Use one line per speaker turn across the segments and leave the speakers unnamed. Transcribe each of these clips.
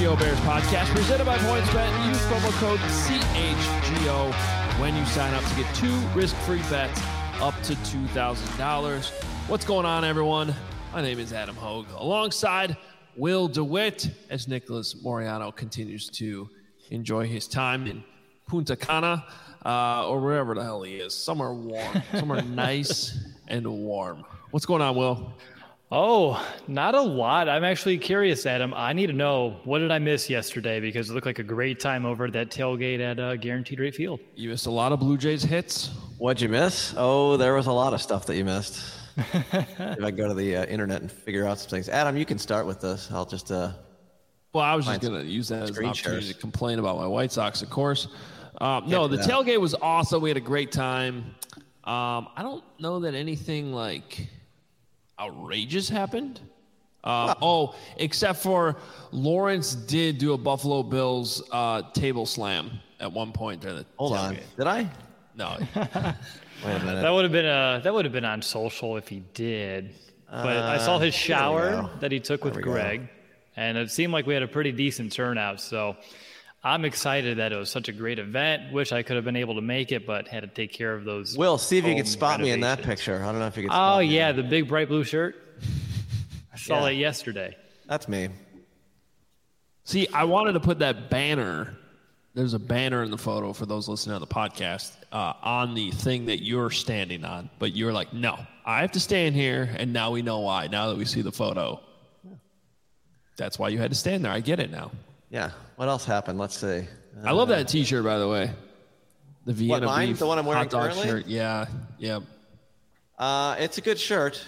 CHGO Bears podcast presented by PointsBet. Use promo code CHGO when you sign up to get 2 risk-free bets up to $2,000. What's going on, everyone? My name is Adam Hogue, alongside Will DeWitt, as Nicholas Moriano continues to enjoy his time in Punta Cana, or wherever the hell he is. Somewhere warm, somewhere nice and warm. What's going on, Will?
Oh, not a lot. I'm actually curious, Adam. I need to know, what did I miss yesterday? Because it looked like a great time over at that tailgate at Guaranteed Rate Field.
You missed a lot of Blue Jays hits.
What'd you miss? Oh, there was a lot of stuff that you missed. If I go to the internet and figure out some things. Adam, you can start with this. I'll just...
Well, I was just going to use that as an opportunity to complain about my White Sox, of course. No, the tailgate was awesome. We had a great time. I don't know that anything like... outrageous happened. Except for Lawrence did do a Buffalo Bills table slam at one point during the
Hold
tailgate.
on. Did I?
No.
Wait a minute.
That would have been on social if he did. But I saw his shower that he took with Greg, and it seemed like we had a pretty decent turnout. So I'm excited that it was such a great event. Wish I could have been able to make it, but had to take care of those.
Will, see if you could spot me in that picture. I don't know if you could spot me.
Oh, yeah, the big bright blue shirt. I saw that yesterday.
That's me.
See, I wanted to put that banner. There's a banner in the photo for those listening on the podcast on the thing that you're standing on. But you're like, no, I have to stand here, and now we know why. Now that we see the photo. That's why you had to stand there. I get it now.
Yeah. What else happened? Let's see.
I love that T-shirt, by the way. The Vienna beef,
the one I'm wearing
hot dog
currently?
shirt. Yeah.
It's a good shirt.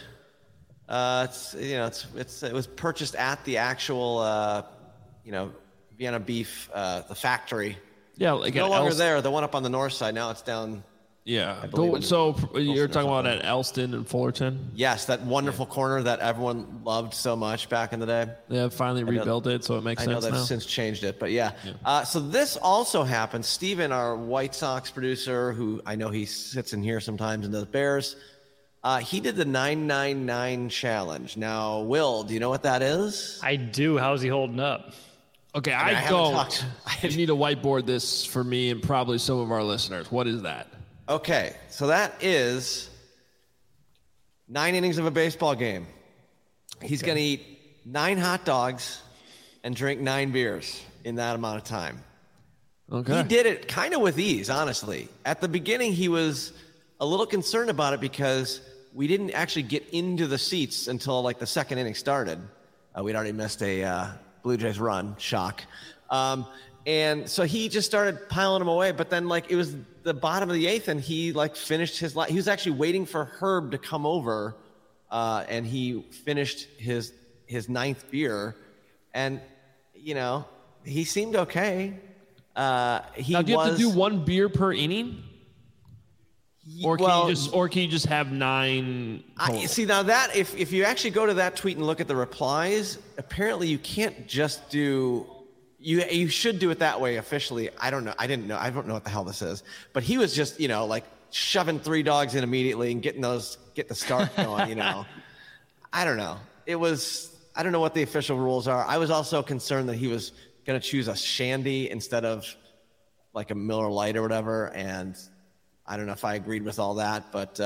It was purchased at the actual, Vienna beef, the factory.
Yeah, like
no longer there. The one up on the north side. Now it's down.
Yeah. So you're talking about at Elston and Fullerton?
Yes, that wonderful corner that everyone loved so much back in the day.
They have finally rebuilt it, so it makes sense now.
I know they've since changed it, but yeah. So this also happened. Steven, our White Sox producer, who I know he sits in here sometimes and does Bears, he did the 999 challenge. Now, Will, do you know what that is?
I do. How's he holding up?
Okay, I don't. You need to whiteboard this for me and probably some of our listeners. What is that?
Okay, so that is 9 innings of a baseball game. He's going to eat 9 hot dogs and drink 9 beers in that amount of time.
Okay.
He did it kind of with ease, honestly. At the beginning, he was a little concerned about it because we didn't actually get into the seats until like the second inning started. We'd already missed a Blue Jays run, shock. And so he just started piling them away. But then, like, it was the bottom of the 8th, and he, like, finished his – he was actually waiting for Herb to come over, and he finished his 9th beer. And, he seemed okay.
Now, do you have to do 1 beer per inning? Or can you just have 9 total?
See, now that if you actually go to that tweet and look at the replies, apparently you can't just do – You should do it that way officially. I don't know. I didn't know. I don't know what the hell this is. But he was just, like shoving 3 dogs in immediately and get the start going, I don't know. I don't know what the official rules are. I was also concerned that he was going to choose a Shandy instead of like a Miller Lite or whatever. And I don't know if I agreed with all that, but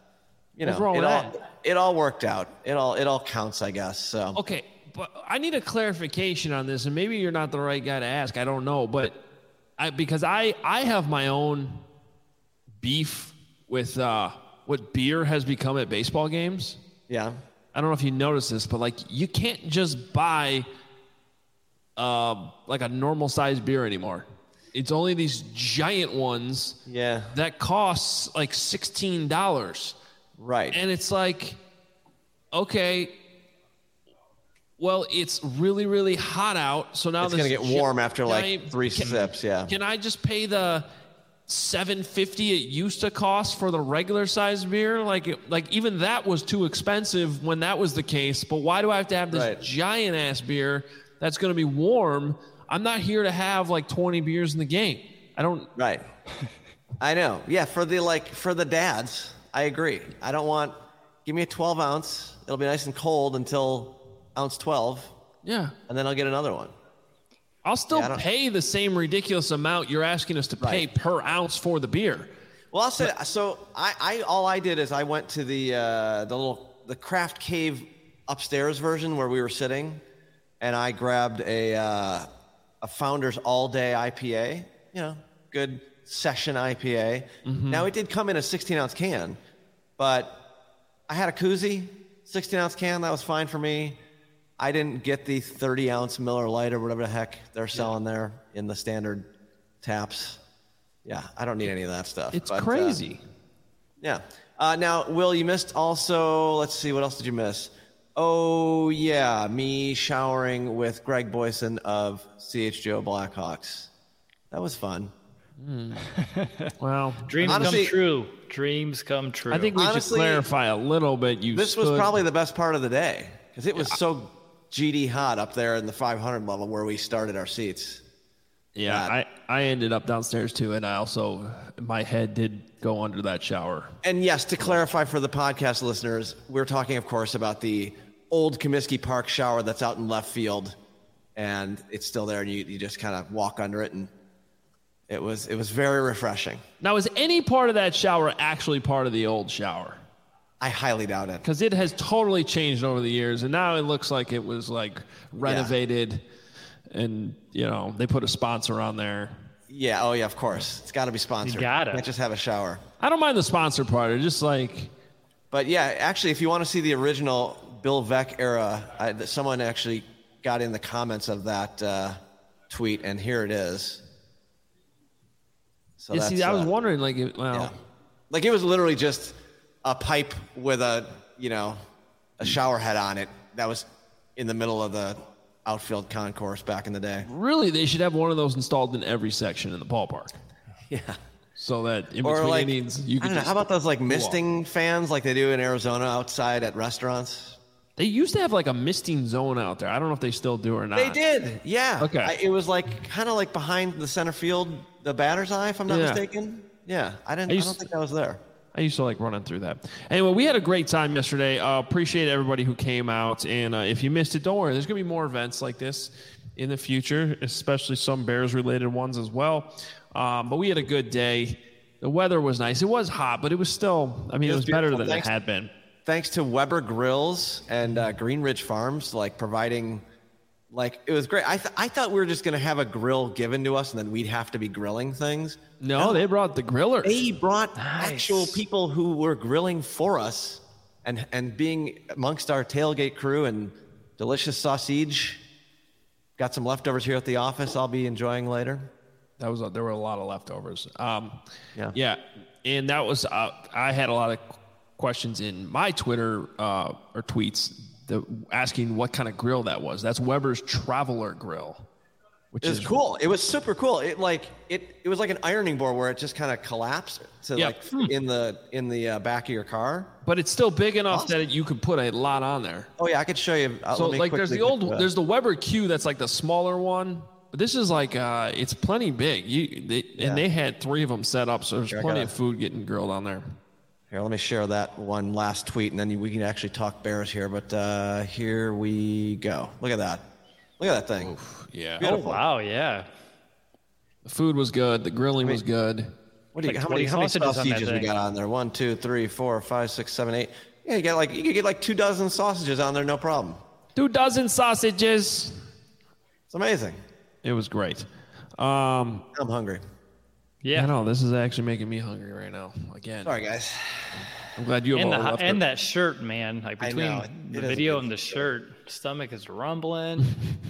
it all worked out. It all counts, I guess. So.
Okay. But I need a clarification on this, and maybe you're not the right guy to ask. I don't know, but because I have my own beef with what beer has become at baseball games.
Yeah.
I don't know if you noticed this, but like you can't just buy like a normal size beer anymore. It's only these giant ones.
Yeah.
That costs like $16.
Right.
And it's like, okay. Well, it's really, really hot out, so now
it's going to get warm after like 3 sips. Yeah.
Can I just pay the $7.50 it used to cost for the regular size beer? Like even that was too expensive when that was the case. But why do I have to have this giant ass beer that's going to be warm? I'm not here to have like 20 beers in the game. I don't.
Right. I know. Yeah. For the dads, I agree. I don't want. Give me a 12 ounce. It'll be nice and cold until ounce 12.
Yeah.
And then I'll get another one.
I'll still pay the same ridiculous amount you're asking us to pay per ounce for the beer.
Well, I'll say so. All I did is I went to the Craft Cave upstairs version where we were sitting, and I grabbed a Founders All Day IPA. Good session IPA. Mm-hmm. Now it did come in a 16-ounce can, but I had a koozie, 16-ounce can. That was fine for me. I didn't get the 30-ounce Miller Lite or whatever the heck they're selling there in the standard taps. Yeah, I don't need any of that stuff.
It's crazy.
Yeah. Now, Will, you missed also, let's see, what else did you miss? Oh, yeah, me showering with Greg Boyson of CHGO Blackhawks. That was fun.
Well,
dreams come true. Dreams come true.
I think we should clarify a little bit.
This was probably the best part of the day because it was so GD hot up there in the 500 level where we started our seats.
Yeah, I ended up downstairs too, and I also, my head did go under that shower.
And yes, to clarify for the podcast listeners, we're talking, of course, about the old Comiskey Park shower that's out in left field, and it's still there, and you just kind of walk under it, and it was very refreshing.
Now, is any part of that shower actually part of the old shower?
I highly doubt it.
Because it has totally changed over the years, and now it looks like it was like renovated, and they put a sponsor on there.
Yeah, oh yeah, of course. It's got to be sponsored.
You got it.
You can't just have a shower.
I don't mind the sponsor part. It's just like...
But yeah, actually, if you want to see the original Bill Veeck era, someone actually got in the comments of that tweet, and here it is. So
I was wondering, like, it
was literally just a pipe with a shower head on it that was in the middle of the outfield concourse back in the day.
Really, they should have one of those installed in every section in the ballpark.
Yeah.
So that in between innings, you can.
How about those like misting fans like they do in Arizona outside at restaurants?
They used to have like a misting zone out there. I don't know if they still do or not.
They did. Yeah.
Okay.
It was like kind of like behind the center field, the batter's eye, if I'm not mistaken. Yeah. I don't think I was there.
I used to like running through that. Anyway, we had a great time yesterday. Appreciate everybody who came out. And if you missed it, don't worry. There's going to be more events like this in the future, especially some Bears-related ones as well. But we had a good day. The weather was nice. It was hot, but it was still, it was better than it had been.
Thanks to Weber Grills and Green Ridge Farms, providing, it was great. I thought we were just going to have a grill given to us and then we'd have to be grilling things.
No, they brought the grillers.
They brought actual people who were grilling for us and being amongst our tailgate crew and delicious sausage. Got some leftovers here at the office I'll be enjoying later.
There were a lot of leftovers. Yeah. And that was, I had a lot of questions in my Twitter or tweets asking what kind of grill that was. That's Weber's Traveler Grill, which is
cool. It was super cool. It was like an ironing board where it just kind of collapsed to in the back of your car.
But it's still big enough that you could put a lot on there.
Oh yeah, I could show you.
So there's the Weber Q that's like the smaller one. But this is like it's plenty big. And they had 3 of them set up, so there's plenty of food getting grilled on there.
Here, let me share that one last tweet, and then we can actually talk Bears here. But here we go. Look at that. Look at that thing.
Oof, yeah.
Beautiful. Oh, wow, yeah.
The food was good. The grilling was good.
How many sausages we got on there? 1, 2, 3, 4, 5, 6, 7, 8. Yeah, you could get like 2 dozen sausages on there, no problem.
2 dozen sausages.
It's amazing.
It was great.
I'm hungry.
Yeah, no, this is actually making me hungry right now. Again.
Sorry, guys.
I'm glad you have
and that shirt, man. Like between the video and the shirt, stomach is rumbling.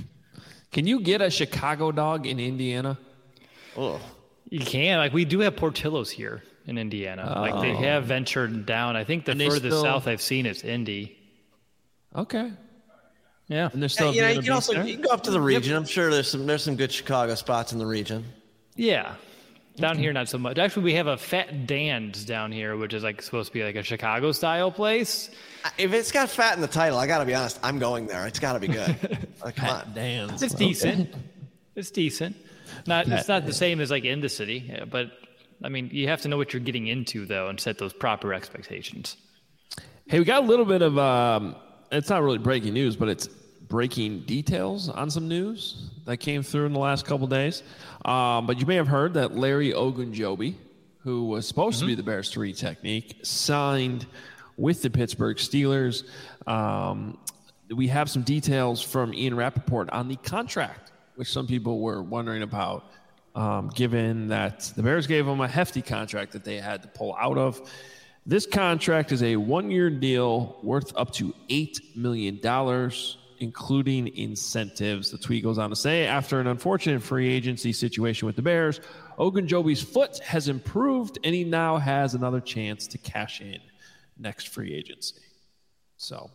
Can you get a Chicago dog in Indiana?
Oh,
you can. Like we do have Portillo's here in Indiana.
Oh.
Like they have ventured down. I think the furthest south I've seen is Indy.
Okay.
Yeah,
and there's still you can go up to the region. I'm sure there's some good Chicago spots in the region.
Yeah, down here not so much. Actually, we have a Fat Dan's down here, which is like supposed to be like a Chicago style place.
If it's got fat in the title, I got to be honest. I'm going there. It's got to be good. Come on,
Dan's.
It's decent. It's decent. It's not the same as like in the city, but you have to know what you're getting into though, and set those proper expectations.
Hey, we got a little bit of. It's not really breaking news, but it's breaking details on some news that came through in the last couple days. But you may have heard that Larry Ogunjobi, who was supposed to be the Bears 3 technique, signed with the Pittsburgh Steelers. We have some details from Ian Rappaport on the contract, which some people were wondering about, given that the Bears gave him a hefty contract that they had to pull out of. This contract is a 1-year deal worth up to $8 million, including incentives. The tweet goes on to say, after an unfortunate free agency situation with the Bears, Ogunjobi's foot has improved, and he now has another chance to cash in next free agency. So,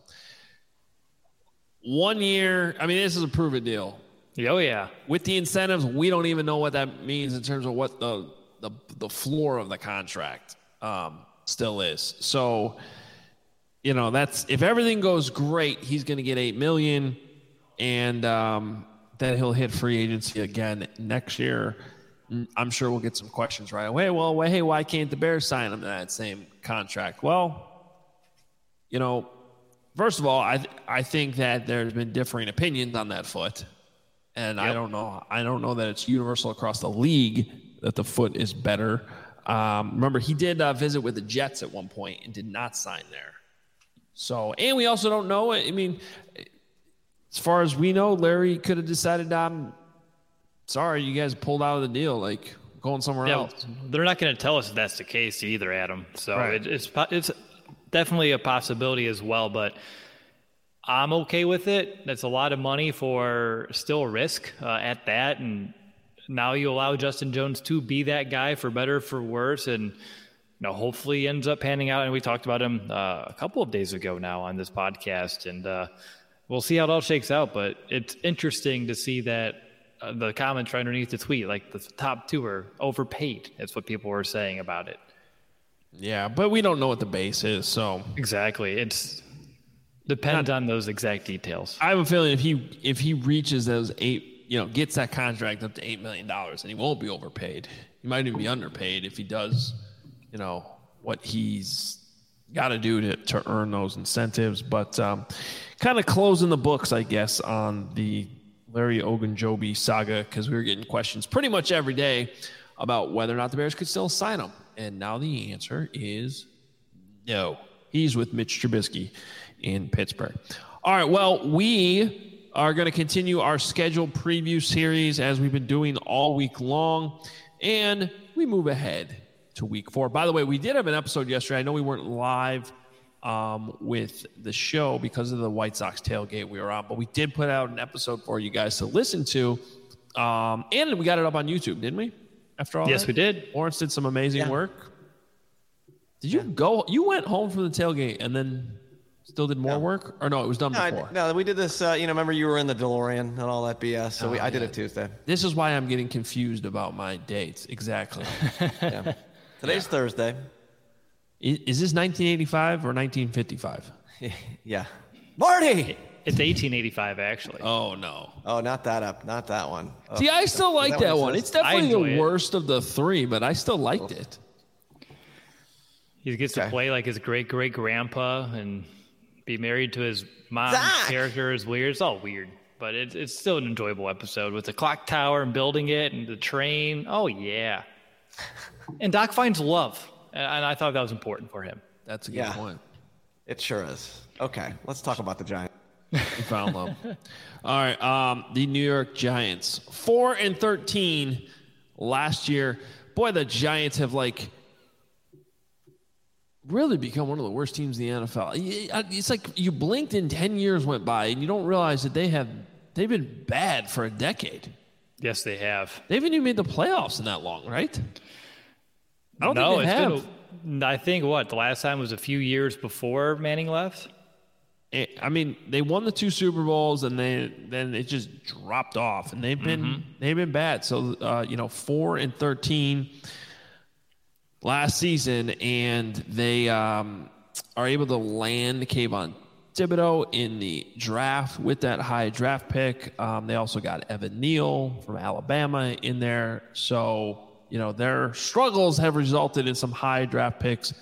1 year, I mean, this is a proven deal.
Oh, yeah. With
the incentives, we don't even know what that means in terms of what the floor of the contract still is. So, you know, that's, if everything goes great, he's going to get $8 million, and then he'll hit free agency again next year. I'm sure we'll get some questions right away. Well, hey, why can't the Bears sign him to that same contract? Well, you know, first of all, I think that there's been differing opinions on that foot. And yep. I don't know that it's universal across the league that the foot is better. Remember, he did visit with the Jets at one point and did not sign there. So, and we also don't know. I mean, as far as we know, Larry could have decided, sorry, you guys pulled out of the deal, like going somewhere else.
They're not going to tell us if that's the case either, Adam. So right. It's definitely a possibility as well, but I'm okay with it. That's a lot of money for still a risk at that. And now you allow Justin Jones to be that guy for better, for worse. And, you know, hopefully he ends up panning out. And we talked about him a couple of days ago now on this podcast. And we'll see how it all shakes out. But it's interesting to see that the comments right underneath the tweet, like the top two are overpaid. That's what people were saying about it.
Yeah, but we don't know what the base is. So
exactly. It's depends on those exact details.
I have a feeling if he reaches those gets that contract up to $8 million, and he won't be overpaid. He might even be underpaid if he does, you know, what he's got to do to earn those incentives. But kind of closing the books, I guess, on the Larry Ogunjobi saga, because we were getting questions pretty much every day about whether or not the Bears could still sign him. And now the answer is no. He's with Mitch Trubisky in Pittsburgh. All right, well, we are going to continue our scheduled preview series as we've been doing all week long, and we move ahead to week 4. By the way, we did have an episode yesterday. I know we weren't live with the show because of the White Sox tailgate we were on, but we did put out an episode for you guys to listen to, and we got it up on YouTube, didn't we? After all,
yes, we did.
Lawrence did some amazing work. Did you go? You went home from the tailgate and then still did more work, or no? It was done before.
No, we did this. Remember you were in the DeLorean and all that BS. So I did it Tuesday.
This is why I'm getting confused about my dates. Exactly.
Yeah. Today's Thursday.
Is this 1985 or 1955?
Yeah. Marty.
It's 1885, actually.
Oh, no.
Oh, not that one. Oh.
See, I still like that one. It's definitely the worst of the three, but I still liked it.
He gets to play like his great-great-grandpa and be married to his mom's character is weird. It's all weird, but it's still an enjoyable episode with the clock tower and building it and the train. Oh, yeah. And Doc finds love, and I thought that was important for him.
That's a good point.
It sure is. Okay, let's talk about the Giants.
He found love. All right, the New York Giants, 4-13 last year. Boy, the Giants have really become one of the worst teams in the NFL. It's like you blinked and 10 years went by, and you don't realize that they've been bad for a decade.
Yes, they have.
They haven't even made the playoffs in that long, right? I don't think they have.
I think the last time was a few years before Manning left.
I mean, they won the 2 Super Bowls, and then it just dropped off, and they've been bad. So 4-13 last season, and they are able to land Kayvon Thibodeau in the draft with that high draft pick. They also got Evan Neal from Alabama in there. So their struggles have resulted in some high draft picks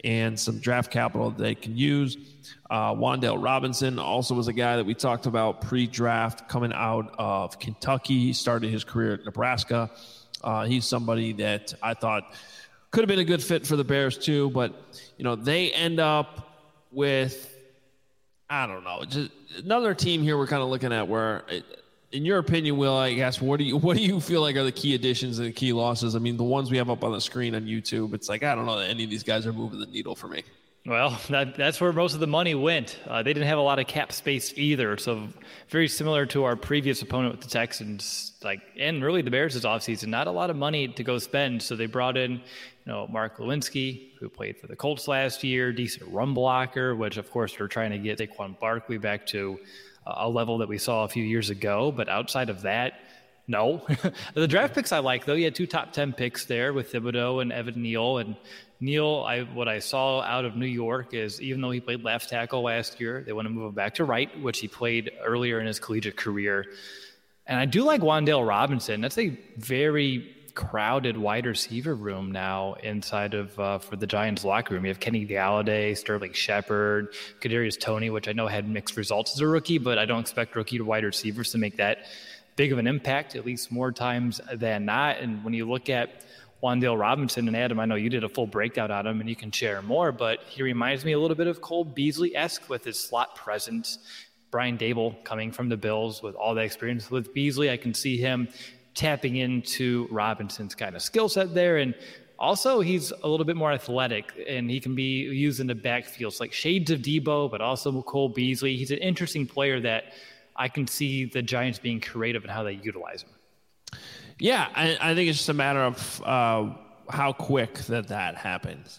and some draft capital that they can use. Wan'Dale Robinson also was a guy that we talked about pre-draft coming out of Kentucky. He started his career at Nebraska. He's somebody that I thought could have been a good fit for the Bears too, but they end up with, I don't know, just another team here we're kind of looking at where, in your opinion, Will, I guess, what do you feel like are the key additions and the key losses? I mean, the ones we have up on the screen on YouTube, it's like, I don't know that any of these guys are moving the needle for me.
Well, that's where most of the money went. They didn't have a lot of cap space either, so very similar to our previous opponent with the Texans, and really the Bears this offseason. Not a lot of money to go spend, so they brought in, Mark Lewinsky, who played for the Colts last year, decent run blocker, which of course they're trying to get Saquon Barkley back to a level that we saw a few years ago. But outside of that, no. The draft picks I like, though. You had 2 top 10 picks there with Thibodeau and Evan Neal. And Neal, what I saw out of New York is, even though he played left tackle last year, they want to move him back to right, which he played earlier in his collegiate career. And I do like Wan'Dale Robinson. That's a very crowded wide receiver room now inside of for the Giants locker room. You have Kenny Galladay, Sterling Shepard, Kadarius Toney, which I know had mixed results as a rookie, but I don't expect rookie wide receivers to make that big of an impact, at least more times than not. And when you look at Wan'Dale Robinson, and Adam, I know you did a full breakdown on him and you can share more, but he reminds me a little bit of Cole Beasley-esque with his slot presence. Brian Dable coming from the Bills with all that experience with Beasley, I can see him tapping into Robinson's kind of skill set there. And also he's a little bit more athletic and he can be used in the backfield. It's like shades of Debo, but also Cole Beasley. He's an interesting player that I can see the Giants being creative in how they utilize him.
Yeah, I think it's just a matter of how quick that happens.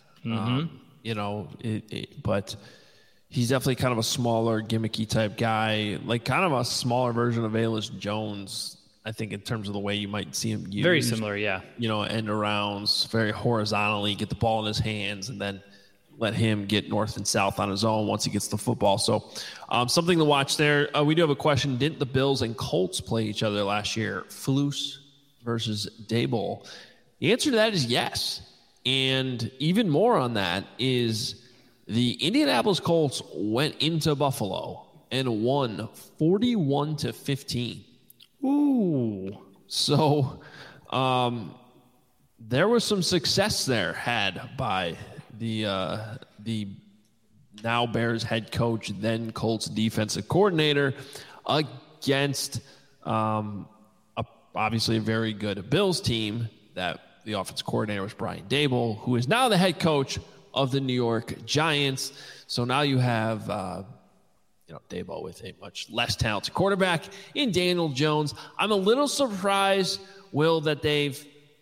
Mm-hmm. But he's definitely kind of a smaller, gimmicky type guy, like kind of a smaller version of Velus Jones, I think, in terms of the way you might see him used.
Very similar, yeah.
End arounds, very horizontally, get the ball in his hands, and then let him get north and south on his own once he gets the football. So something to watch there. We do have a question. Didn't the Bills and Colts play each other last year? Flus versus Dable. The answer to that is yes. And even more on that is the Indianapolis Colts went into Buffalo and won 41-15.
Ooh.
So there was some success there had by the now Bears head coach, then Colts defensive coordinator, against obviously a very good Bills team that the offensive coordinator was Brian Dable, who is now the head coach of the New York Giants. So now you have Dable with a much less talented quarterback in Daniel Jones. I'm a little surprised, Will, that they've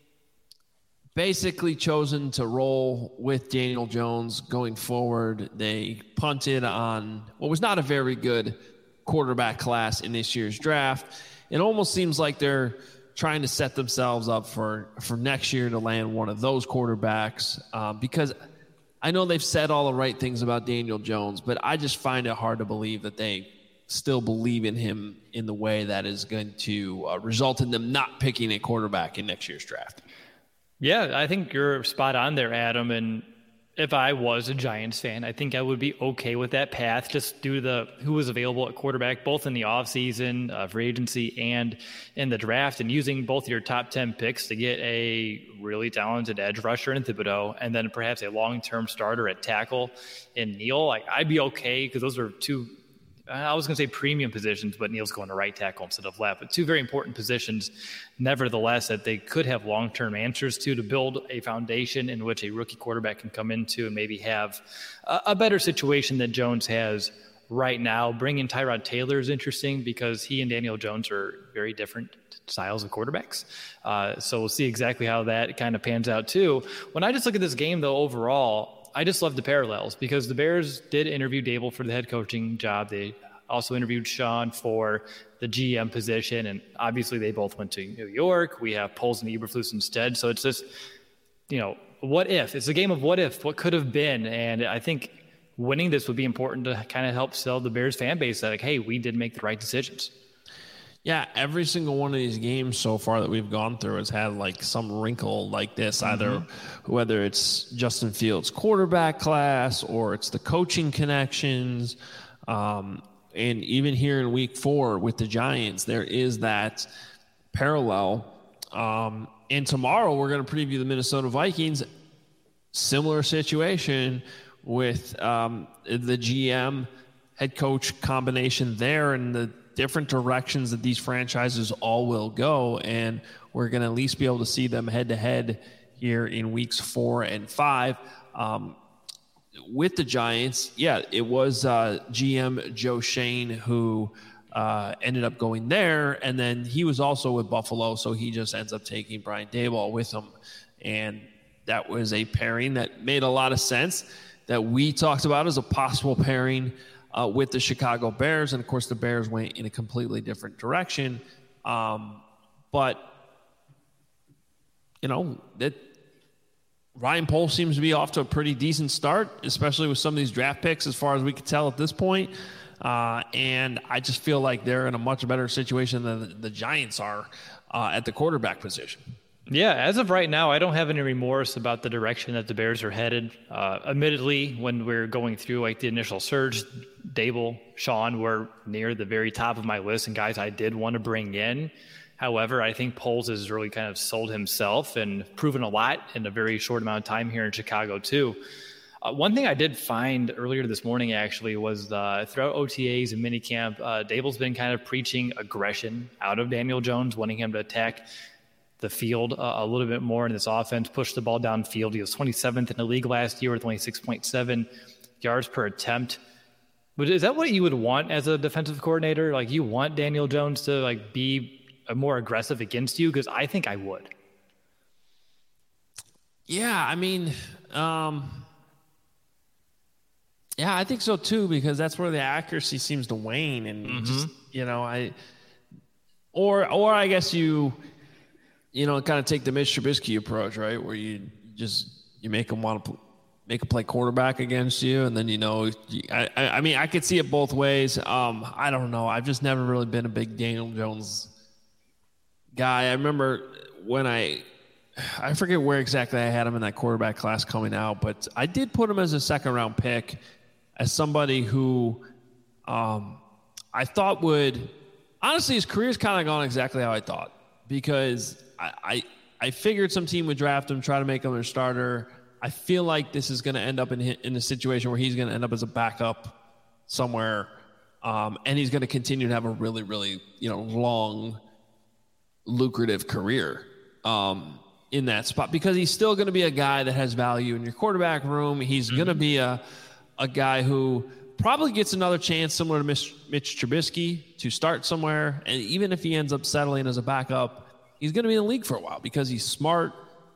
basically chosen to roll with Daniel Jones going forward. They punted on what was not a very good quarterback class in this year's draft. It almost seems like they're trying to set themselves up for next year to land one of those quarterbacks because I know they've said all the right things about Daniel Jones, but I just find it hard to believe that they still believe in him in the way that is going to result in them not picking a quarterback in next year's draft.
Yeah, I think you're spot on there, Adam. And if I was a Giants fan, I think I would be okay with that path, just due to who was available at quarterback, both in the offseason, free agency, and in the draft, and using both your top 10 picks to get a really talented edge rusher in Thibodeau, and then perhaps a long-term starter at tackle in Neal. I'd be okay because those are two, I was going to say premium positions, but Neal's going to right tackle instead of left. But two very important positions, nevertheless, that they could have long-term answers to build a foundation in which a rookie quarterback can come into and maybe have a better situation that Jones has right now. Bringing Tyrod Taylor is interesting because he and Daniel Jones are very different styles of quarterbacks. So we'll see exactly how that kind of pans out too. When I just look at this game, though, overall, I just love the parallels because the Bears did interview Dable for the head coaching job. They also interviewed Sean for the GM position, and obviously they both went to New York. We have Poles and Eberflus instead. So it's just, what if? It's a game of what if, what could have been. And I think winning this would be important to kind of help sell the Bears fan base that, hey, we did make the right decisions.
Yeah, every single one of these games so far that we've gone through has had like some wrinkle like this, either whether it's Justin Fields' quarterback class or it's the coaching connections. And even here in week 4 with the Giants, there is that parallel. And tomorrow we're going to preview the Minnesota Vikings. Similar situation with the GM head coach combination there and the different directions that these franchises all will go. And we're going to at least be able to see them head to head here in weeks 4 and 5. With the Giants, yeah, it was GM Joe Schoen who ended up going there. And then he was also with Buffalo, so he just ends up taking Brian Daboll with him. And that was a pairing that made a lot of sense that we talked about as a possible pairing with the Chicago Bears. And, of course, the Bears went in a completely different direction. But, you know, that Ryan Poles seems to be off to a pretty decent start, especially with some of these draft picks as far as we can tell at this point. And I just feel like they're in a much better situation than the Giants are at the quarterback position.
Yeah, as of right now, I don't have any remorse about the direction that the Bears are headed. Admittedly, when we're going through like the initial surge, Daboll, Sean were near the very top of my list and guys I did want to bring in. However, I think Poles has really kind of sold himself and proven a lot in a very short amount of time here in Chicago too. One thing I did find earlier this morning actually was throughout OTAs and minicamp, Daboll's been kind of preaching aggression out of Daniel Jones, wanting him to attack the field a little bit more in this offense, push the ball downfield. He was 27th in the league last year with only 6.7 yards per attempt. But is that what you would want as a defensive coordinator? Like, you want Daniel Jones to like be more aggressive against you? Because I think I would.
Yeah, I mean, yeah, I think so too, because that's where the accuracy seems to wane, and just, you know, or I guess you kind of take the Mitch Trubisky approach, right? Where you make them want to make a play quarterback against you. And then, I mean, I could see it both ways. I don't know. I've just never really been a big Daniel Jones guy. I remember when I forget where exactly I had him in that quarterback class coming out, but I did put him as a 2nd-round pick as somebody who I thought would – honestly, his career's kind of gone exactly how I thought, because I figured some team would draft him, try to make him their starter. I feel like this is going to end up in a situation where he's going to end up as a backup somewhere, and he's going to continue to have a really, really, long, lucrative career in that spot, because he's still going to be a guy that has value in your quarterback room. He's going to be a guy who probably gets another chance similar to Mitch Trubisky to start somewhere. And even if he ends up settling as a backup, he's going to be in the league for a while because he's smart.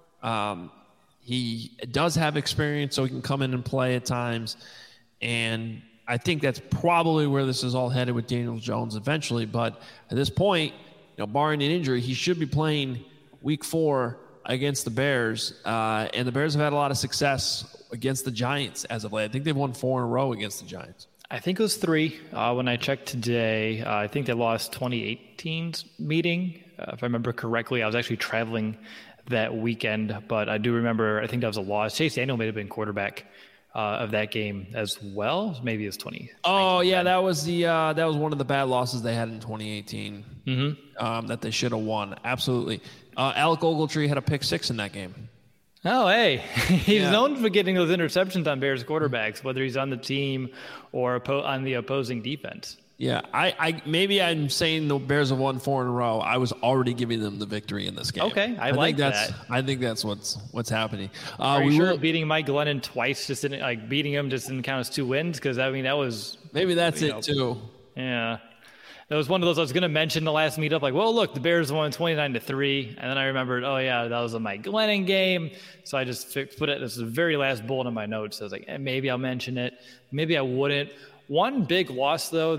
He does have experience, so he can come in and play at times. And I think that's probably where this is all headed with Daniel Jones eventually. But at this point, barring an injury, he should be playing week 4 against the Bears. And the Bears have had a lot of success against the Giants as of late. I think they've won 4 in a row against the Giants.
I think it was 3 when I checked today. I think they lost 2018's meeting. If I remember correctly, I was actually traveling that weekend, but I do remember, I think that was a loss. Chase Daniel may have been quarterback of that game as well. Maybe it's 20.
Oh yeah, that was one of the bad losses they had in 2018 that they should have won. Absolutely. Alec Ogletree had a pick 6 in that game.
Oh, hey, he's known for getting those interceptions on Bears quarterbacks, whether he's on the team or on the opposing defense.
Yeah, maybe I'm saying the Bears have won 4 in a row. I was already giving them the victory in this game.
Okay, I like that.
I think that's what's happening.
Are you sure beating Mike Glennon twice beating him just didn't count as 2 wins? Because I mean, that was
maybe that's it too.
Yeah. That was one of those I was going to mention the last meetup, like, well, look, the Bears won 29-3, and then I remembered, oh yeah, that was a Mike Glennon game, so I just put it as the very last bullet in my notes. I was like, maybe I'll mention it, maybe I wouldn't. One big loss though that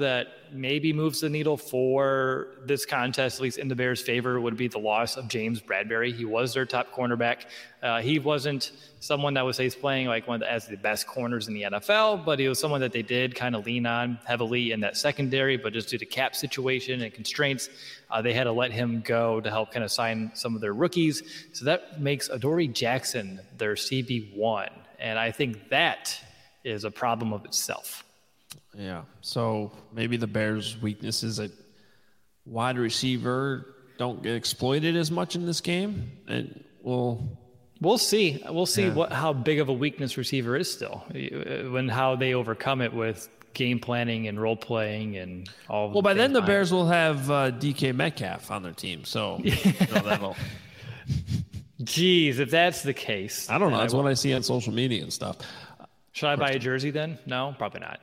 maybe moves the needle for this contest, at least in the Bears' favor, would be the loss of James Bradberry. He was their top cornerback. He wasn't someone that was playing like as the best corners in the NFL, but he was someone that they did kind of lean on heavily in that secondary, but just due to cap situation and constraints, they had to let him go to help kind of sign some of their rookies. So that makes Adoree Jackson their CB1. And I think that is a problem of itself.
Yeah, so maybe the Bears' weakness is that wide receiver don't get exploited as much in this game, and we'll see. We'll see how big of a weakness receiver is still, how they overcome it with game planning and role playing and all. Well, by then the Bears will have DK Metcalf on their team, so that'll.
Geez, if that's the case,
I don't know. That's what I see on social media and stuff.
Should I buy a jersey then? No, probably not.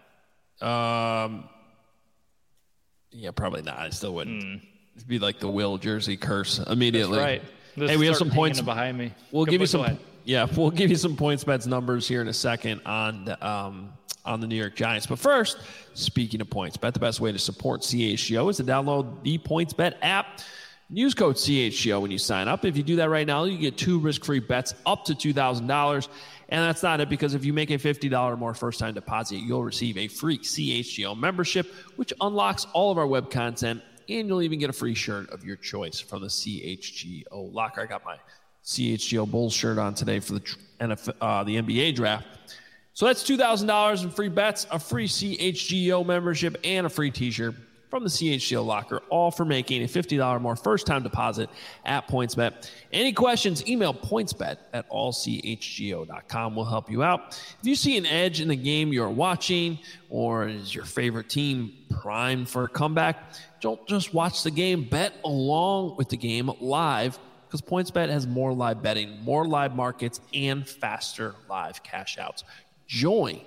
Yeah, probably not. I still wouldn't. It'd be like the Will jersey curse immediately.
That's right.
Hey, we have some points
behind me.
We'll give you some. Yeah, we'll give you some PointsBet's numbers here in a second on the New York Giants. But first, speaking of PointsBet, the best way to support CHGO is to download the PointsBet app. Use code CHGO when you sign up. If you do that right now, you get 2 risk-free bets up to $2,000. And that's not it, because if you make a $50 or more first-time deposit, you'll receive a free CHGO membership, which unlocks all of our web content, and you'll even get a free shirt of your choice from the CHGO locker. I got my CHGO Bulls shirt on today for the NBA draft. So that's $2,000 in free bets, a free CHGO membership, and a free T-shirt from the CHGO locker, all for making a $50 or more first-time deposit at PointsBet. Any questions, email pointsbet@allchgo.com. We'll help you out. If you see an edge in the game you're watching, or is your favorite team primed for a comeback, don't just watch the game. Bet along with the game live, because PointsBet has more live betting, more live markets, and faster live cash outs. Join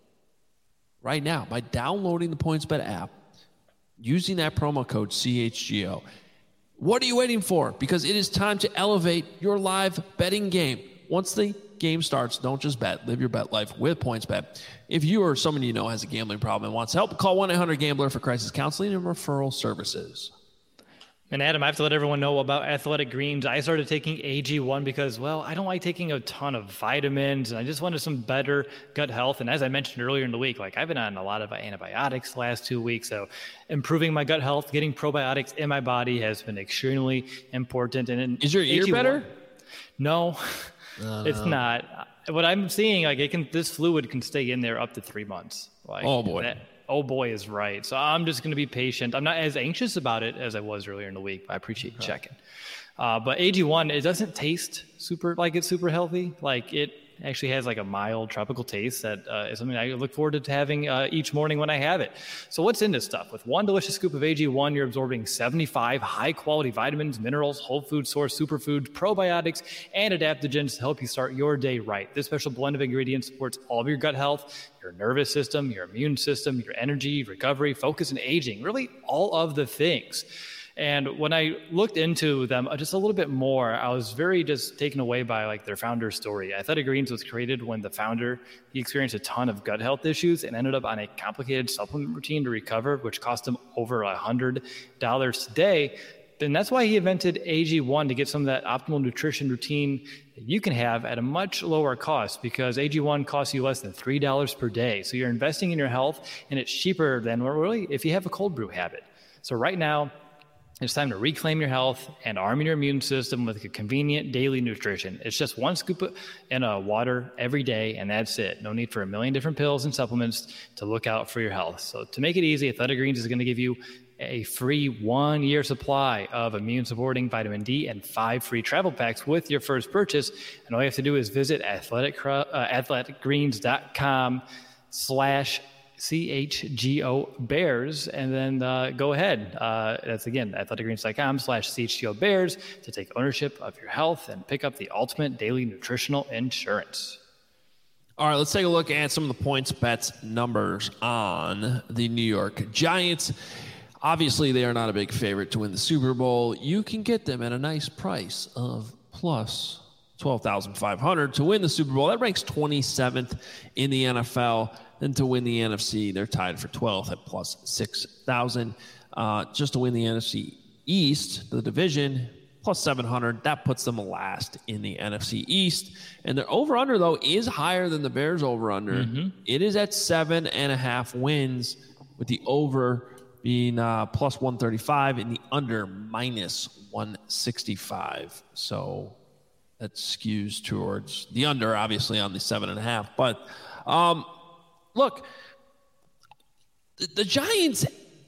right now by downloading the PointsBet app, using that promo code CHGO. What are you waiting for? Because it is time to elevate your live betting game. Once the game starts, don't just bet. Live your bet life with PointsBet. If you or someone you know has a gambling problem and wants help, call 1-800-GAMBLER for crisis counseling and referral services.
And Adam, I have to let everyone know about Athletic Greens. I started taking AG1 because, well, I don't like taking a ton of vitamins, and I just wanted some better gut health. And as I mentioned earlier in the week, I've been on a lot of antibiotics the last 2 weeks, so improving my gut health, getting probiotics in my body has been extremely important. And
is your ear
AG1,
better?
No, it's not. What I'm seeing, this fluid can stay in there up to 3 months.
Oh boy.
Oh boy is right. So I'm just going to be patient. I'm not as anxious about it as I was earlier in the week, but I appreciate you checking. But AG1, it doesn't taste super healthy. It actually has a mild tropical taste that is something I look forward to having each morning when I have it. So what's in this stuff? With 1 delicious scoop of AG1, you're absorbing 75 high-quality vitamins, minerals, whole food source superfoods, probiotics, and adaptogens to help you start your day right. This special blend of ingredients supports all of your gut health, your nervous system, your immune system, your energy, recovery, focus, and aging, really all of the things. And when I looked into them just a little bit more, I was very just taken away by their founder's story. Athletic Greens was created when the founder, he experienced a ton of gut health issues and ended up on a complicated supplement routine to recover, which cost him over $100 today. And that's why he invented AG1, to get some of that optimal nutrition routine that you can have at a much lower cost, because AG1 costs you less than $3 per day. So you're investing in your health, and it's cheaper than really if you have a cold brew habit. So right now, it's time to reclaim your health and arm your immune system with a convenient daily nutrition. It's just 1 scoop in water every day, and that's it. No need for a million different pills and supplements to look out for your health. So to make it easy, Athletic Greens is going to give you a free 1-year supply of immune-supporting vitamin D and 5 free travel packs with your first purchase. And all you have to do is visit athleticgreens.com/CHGO Bears, and then go ahead. That's again, athleticgreens.com/CHGO Bears to take ownership of your health and pick up the ultimate daily nutritional insurance.
All right, let's take a look at some of the PointsBet numbers on the New York Giants. Obviously, they are not a big favorite to win the Super Bowl. You can get them at a nice price of plus $12,500 to win the Super Bowl. That ranks 27th in the NFL. Then to win the NFC, they're tied for 12th at plus 6,000. Just to win the NFC East, the division, plus 700. That puts them last in the NFC East. And their over-under, though, is higher than the Bears' over-under. Mm-hmm. It is at 7.5 wins, with the over being plus 135 and the under minus 165. So that skews towards the under, obviously, on the 7.5. But look, the Giants,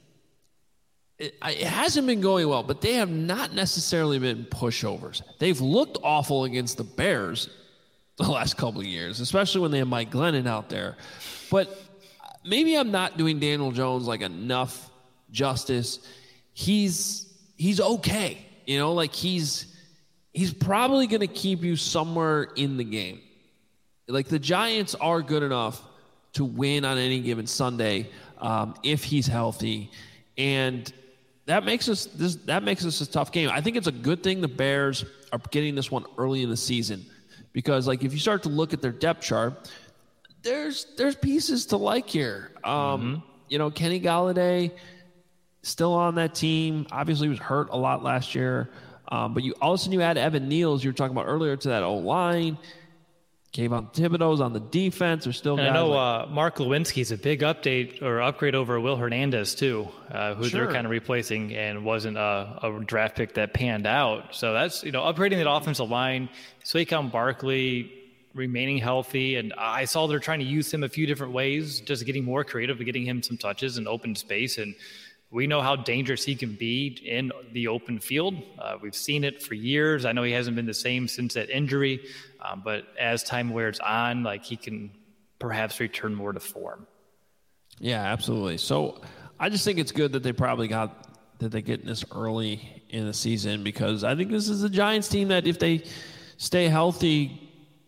it hasn't been going well, but they have not necessarily been pushovers. They've looked awful against the Bears the last couple of years, especially when they have Mike Glennon out there. But maybe I'm not doing Daniel Jones like enough justice. He's okay. You know, like he's probably going to keep you somewhere in the game. Like the Giants are good enough to win on any given Sunday if he's healthy, and that makes us a tough game. I think it's a good thing the Bears are getting this one early in the season, because like if you start to look at their depth chart, there's pieces to like here. You know, Kenny Golladay still on that team. Obviously, he was hurt a lot last year. But all of a sudden you add Evan Neals, you were talking about earlier, to that O-line. Kayvon Thibodeau's on the defense. There's still guys.
I know Mark Lewinsky's a big upgrade over Will Hernandez, too, who they're kind of replacing and wasn't a draft pick that panned out. So that's, upgrading that offensive line. Saquon Barkley remaining healthy. And I saw they're trying to use him a few different ways, just getting more creative and getting him some touches in open space. And we know how dangerous he can be in the open field. We've seen it for years. I know he hasn't been the same since that injury, but as time wears on, like he can perhaps return more to form.
Yeah, absolutely. So I just think it's good that they get this early in the season, because I think this is a Giants team that if they stay healthy,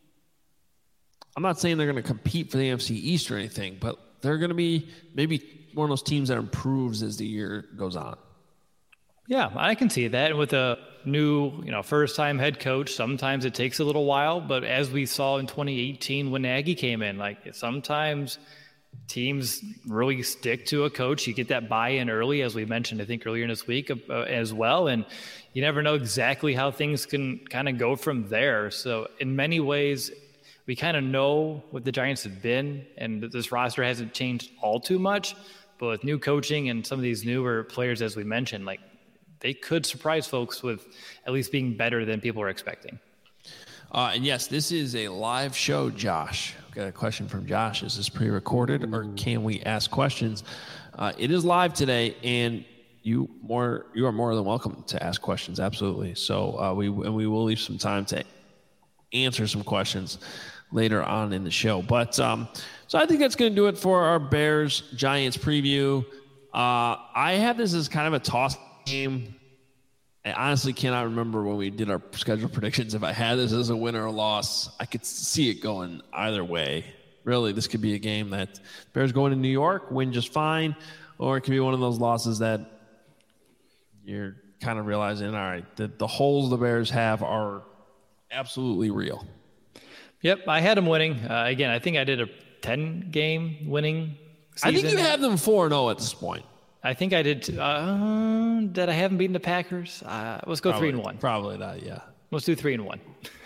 I'm not saying they're going to compete for the NFC East or anything, but they're going to be maybe one of those teams that improves as the year goes on.
Yeah, I can see that. And with a new, first-time head coach, sometimes it takes a little while. But as we saw in 2018 when Nagy came in, like sometimes teams really stick to a coach. You get that buy-in early, as we mentioned, I think, earlier in this week as well. And you never know exactly how things can kind of go from there. So in many ways, we kind of know what the Giants have been, and this roster hasn't changed all too much. But with new coaching and some of these newer players, as we mentioned, like they could surprise folks with at least being better than people are expecting.
And yes, this is a live show, Josh. I've got a question from Josh. Is this pre-recorded or can we ask questions? It is live today, and you are more than welcome to ask questions. Absolutely. So we will leave some time to answer some questions later on in the show. But so I think that's going to do it for our Bears-Giants preview. I have this as kind of a toss game. I honestly cannot remember when we did our schedule predictions if I had this as a win or a loss. I could see it going either way. Really, this could be a game that Bears going to New York, win just fine, or it could be one of those losses that you're kind of realizing, all right, the holes the Bears have are absolutely real.
Yep, I had them winning. Again, I think I did a 10-game winning season.
I think you have them 4-0 at this point.
I think I did. Did I have them beating the Packers? Let's go 3-1.
Probably not, yeah.
Let's do 3-1.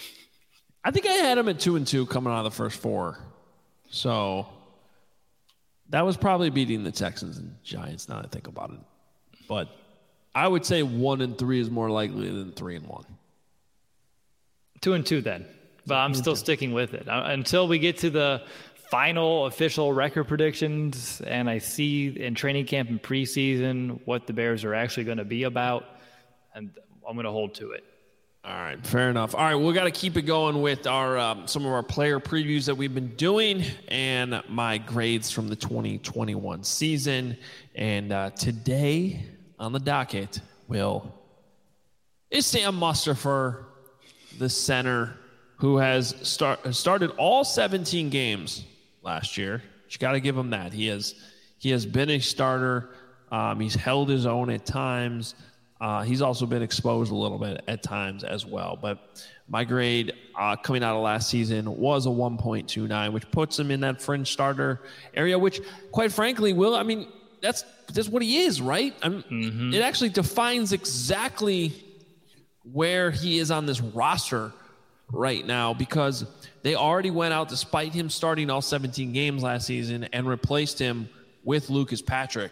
I think I had them at 2-2 coming out of the first four. So that was probably beating the Texans and Giants, now that I think about it. But I would say 1-3 is more likely than 3-1.
2-2 then. But I'm still sticking with it until we get to the final official record predictions and I see in training camp and preseason what the Bears are actually going to be about, and I'm going to hold to it.
All right, fair enough. All right, we got to keep it going with our some of our player previews that we've been doing and my grades from the 2021 season. And today on the docket is Sam Mustipher, the center, who has started all 17 games last year. You got to give him that. He has been a starter. He's held his own at times. He's also been exposed a little bit at times as well. But my grade coming out of last season was a 1.29, which puts him in that fringe starter area, which, quite frankly, that's what he is, right? It actually defines exactly where he is on this roster right now, because they already went out, despite him starting all 17 games last season, and replaced him with Lucas Patrick.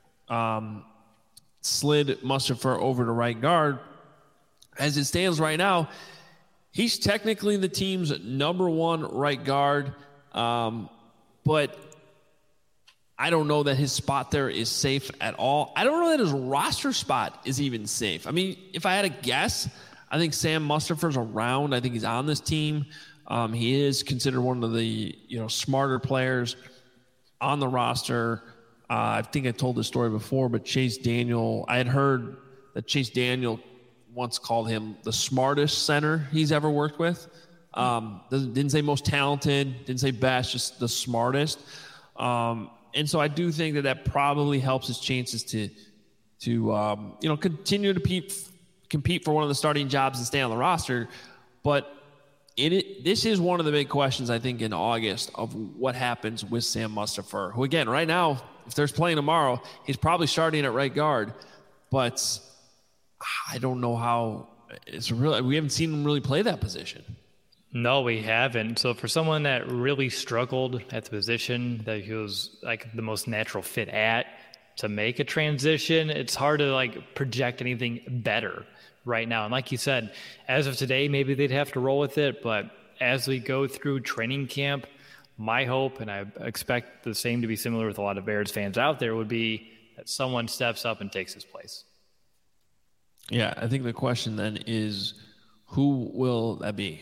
Slid Mustipher over to right guard. As it stands right now, he's technically the team's number one right guard, but I don't know that his spot there is safe at all. I don't know that his roster spot is even safe. I mean, if I had a guess, I think Sam Mustipher's around. I think he's on this team. He is considered one of the smarter players on the roster. I think I told this story before, but Chase Daniel, I had heard that Chase Daniel once called him the smartest center he's ever worked with. Didn't say most talented, didn't say best, just the smartest. And so I do think that probably helps his chances to continue to compete for one of the starting jobs and stay on the roster. But this is one of the big questions, I think, in August of what happens with Sam Mustipher, who, again, right now, if there's playing tomorrow, he's probably starting at right guard. But I don't know how we haven't seen him really play that position.
No, we haven't. So for someone that really struggled at the position that he was like the most natural fit at to make a transition, it's hard to project anything better right now. And like you said, as of today, maybe they'd have to roll with it. But as we go through training camp, my hope, and I expect the same to be similar with a lot of Bears fans out there, would be that someone steps up and takes his place.
Yeah, I think the question then is, who will that be?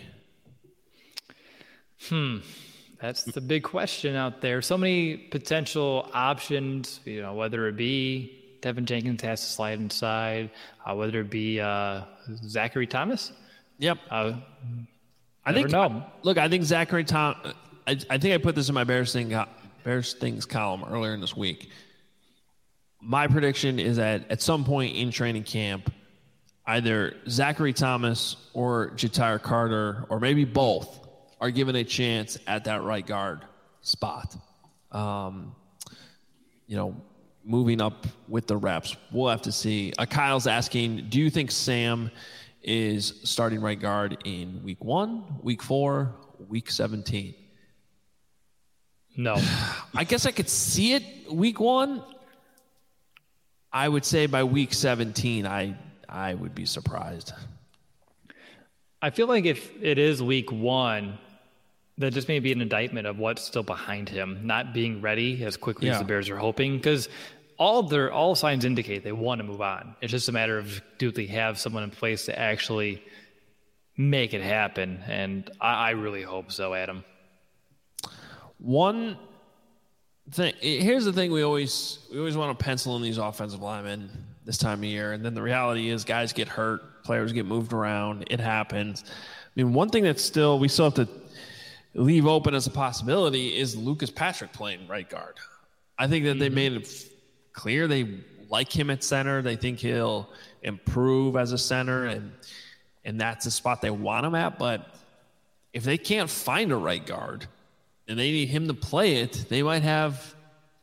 That's the big question out there. So many potential options, whether it be Tevin Jenkins has to slide inside, whether it be Zachary Thomas.
Yep.
I think
Zachary Thomas, I think I put this in my Bears Things column earlier in this week. My prediction is that at some point in training camp, either Zachary Thomas or Ja'Tyre Carter, or maybe both, are given a chance at that right guard spot. Moving up with the reps. We'll have to see. Kyle's asking, do you think Sam is starting right guard in week 1, week 4, week 17?
No.
I guess I could see it week 1. I would say by week 17, I would be surprised.
I feel like if it is week 1, that just may be an indictment of what's still behind him, not being ready as quickly as the Bears are hoping, because all signs indicate they want to move on. It's just a matter of, do they have someone in place to actually make it happen? And I really hope so, Adam.
One thing, here's the thing: we always want to pencil in these offensive linemen this time of year, and then the reality is guys get hurt, players get moved around. It happens. I mean, one thing we still have to leave open as a possibility is Lucas Patrick playing right guard. I think that they made it clear they like him at center. They think he'll improve as a center, and that's the spot they want him at. But if they can't find a right guard and they need him to play it, they might have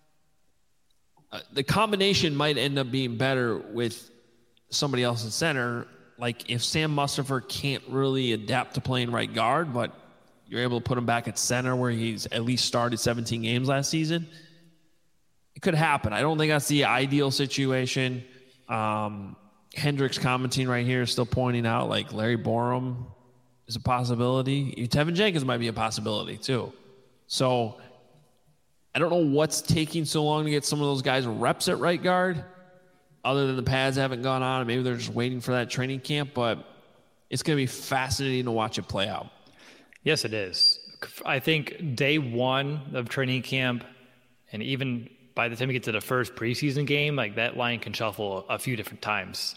the combination might end up being better with somebody else at center. Like if Sam Mustipher can't really adapt to playing right guard, but you're able to put him back at center where he's at least started 17 games last season, it could happen. I don't think that's the ideal situation. Hendricks commenting right here is still pointing out Larry Borom is a possibility. Tevin Jenkins might be a possibility too. So I don't know what's taking so long to get some of those guys reps at right guard, other than the pads haven't gone on. Maybe they're just waiting for that training camp, but it's going to be fascinating to watch it play out.
Yes, it is. I think day 1 of training camp, and even by the time you get to the first preseason game, that line can shuffle a few different times.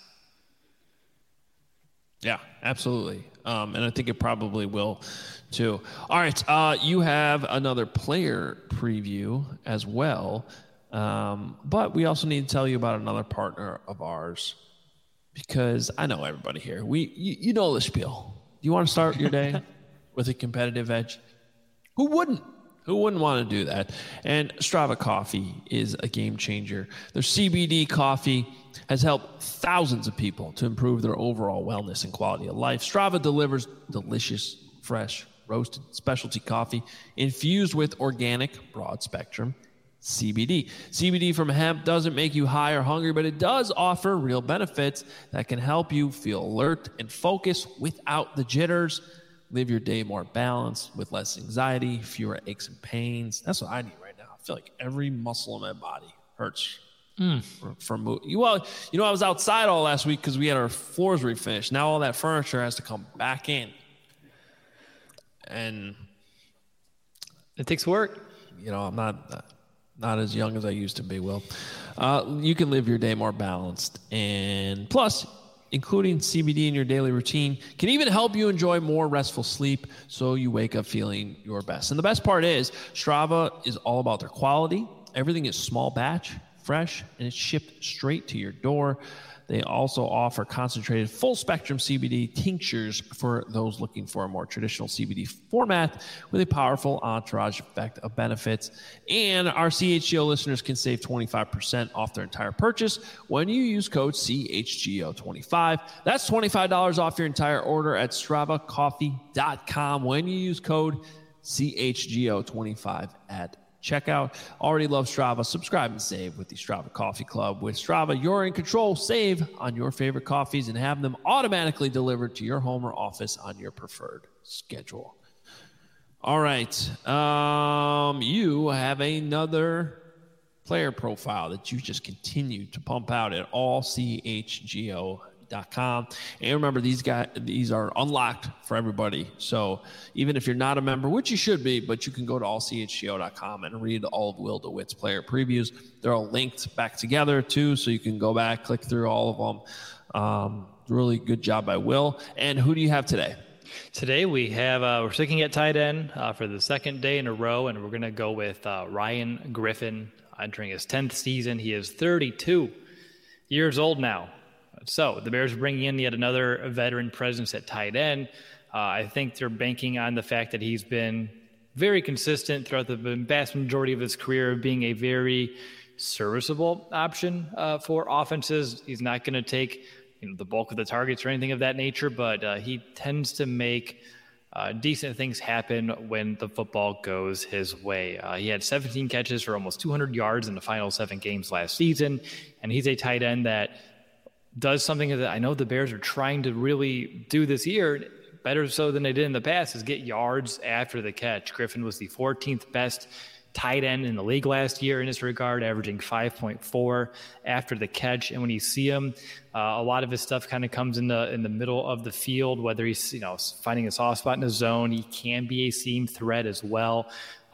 Yeah, absolutely. And I think it probably will too. All right. You have another player preview as well. But we also need to tell you about another partner of ours, because I know everybody here. You know the spiel. You want to start your day with a competitive edge? Who wouldn't? Who wouldn't want to do that? And Strava Coffee is a game changer. Their CBD coffee has helped thousands of people to improve their overall wellness and quality of life. Strava delivers delicious, fresh, roasted specialty coffee infused with organic, broad-spectrum CBD. CBD from hemp doesn't make you high or hungry, but it does offer real benefits that can help you feel alert and focused without the jitters. Live your day more balanced with less anxiety, fewer aches and pains. That's what I need right now. I feel like every muscle in my body hurts from moving. Well, I was outside all last week because we had our floors refinished. Now all that furniture has to come back in. And
it takes work.
I'm not as young as I used to be, Will. You can live your day more balanced. And plus, including CBD in your daily routine can even help you enjoy more restful sleep so you wake up feeling your best. And the best part is Strava is all about their quality. Everything is small batch, fresh, and it's shipped straight to your door. They also offer concentrated full-spectrum CBD tinctures for those looking for a more traditional CBD format with a powerful entourage effect of benefits. And our CHGO listeners can save 25% off their entire purchase when you use code CHGO25. That's $25 off your entire order at StravaCoffee.com when you use code CHGO25 at checkout. Already love Strava? Subscribe and save with the Strava Coffee Club. With Strava, you're in control. Save on your favorite coffees and have them automatically delivered to your home or office on your preferred schedule. All right. You have another player profile that you just continue to pump out at allchgo.com. And remember, these are unlocked for everybody. So even if you're not a member, which you should be, but you can go to allchgo.com and read all of Will DeWitt's player previews. They're all linked back together too, so you can go back, click through all of them. Really good job by Will. And who do you have today?
Today we have we're sticking at tight end for the second day in a row, and we're going to go with Ryan Griffin entering his 10th season. He is 32 years old now. So the Bears are bringing in yet another veteran presence at tight end. I think they're banking on the fact that he's been very consistent throughout the vast majority of his career of being a very serviceable option for offenses. He's not going to take the bulk of the targets or anything of that nature, but he tends to make decent things happen when the football goes his way. He had 17 catches for almost 200 yards in the final 7 games last season, and he's a tight end that does something that I know the Bears are trying to really do this year, better so than they did in the past, is get yards after the catch. Griffin was the 14th best tight end in the league last year in this regard, averaging 5.4 after the catch. And when you see him, a lot of his stuff kind of comes in the middle of the field, whether he's finding a soft spot in the zone. He can be a seam threat as well.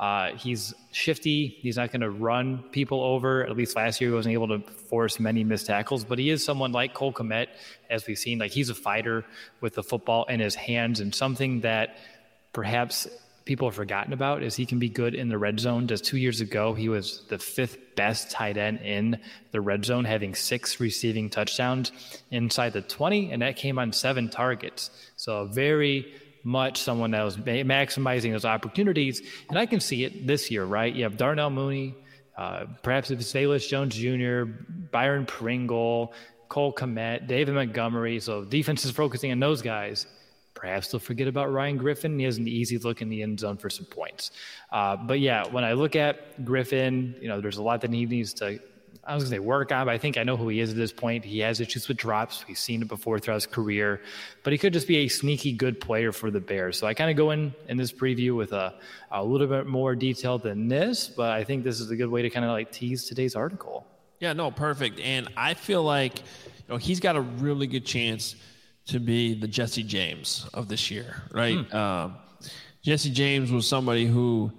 He's shifty. He's not going to run people over. At least last year, he wasn't able to force many missed tackles, but he is someone like Cole Kmet, as we've seen. Like, he's a fighter with the football in his hands, and something that perhaps people have forgotten about is he can be good in the red zone. Just 2 years ago, he was the 5th best tight end in the red zone, having 6 receiving touchdowns inside the 20, and that came on 7 targets. So very much someone that was maximizing those opportunities. And I can see it this year, right? You have Darnell Mooney, perhaps if it's Velus Jones Jr., Byron Pringle, Cole Kmet, David Montgomery. So defense is focusing on those guys. Perhaps they'll forget about Ryan Griffin. He has an easy look in the end zone for some points. But yeah, when I look at Griffin, there's a lot that he needs to, I was going to say work on, but I think I know who he is at this point. He has issues with drops. We've seen it before throughout his career, but he could just be a sneaky good player for the Bears. So I kind of go in this preview with a little bit more detail than this, but I think this is a good way to kind of like tease today's article.
Yeah, no, perfect. And I feel like he's got a really good chance to be the Jesse James of this year, right? Jesse James was somebody who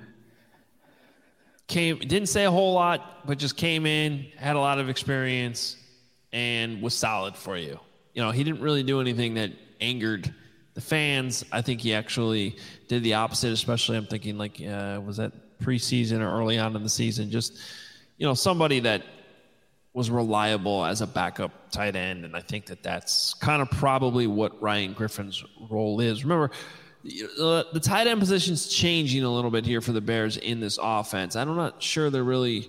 didn't say a whole lot, but just came in, had a lot of experience, and was solid for you. He didn't really do anything that angered the fans. I think he actually did the opposite, especially I'm thinking was that preseason or early on in the season, just, somebody that was reliable as a backup tight end, and I think that's kind of probably what Ryan Griffin's role is. Remember, the tight end position's changing a little bit here for the Bears in this offense. I'm not sure they're really,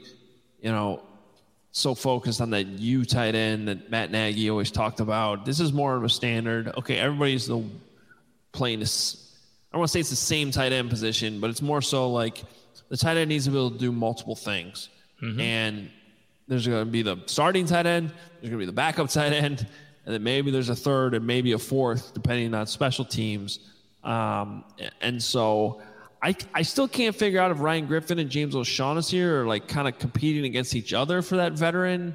so focused on that U tight end that Matt Nagy always talked about. This is more of a standard. Okay, everybody's playing this. I don't want to say it's the same tight end position, but it's more so like the tight end needs to be able to do multiple things. Mm-hmm. And there's going to be the starting tight end, there's going to be the backup tight end, and then maybe there's a third and maybe a fourth, depending on special teams. And so I still can't figure out if Ryan Griffin and James O'Shaughnessy are like kind of competing against each other for that veteran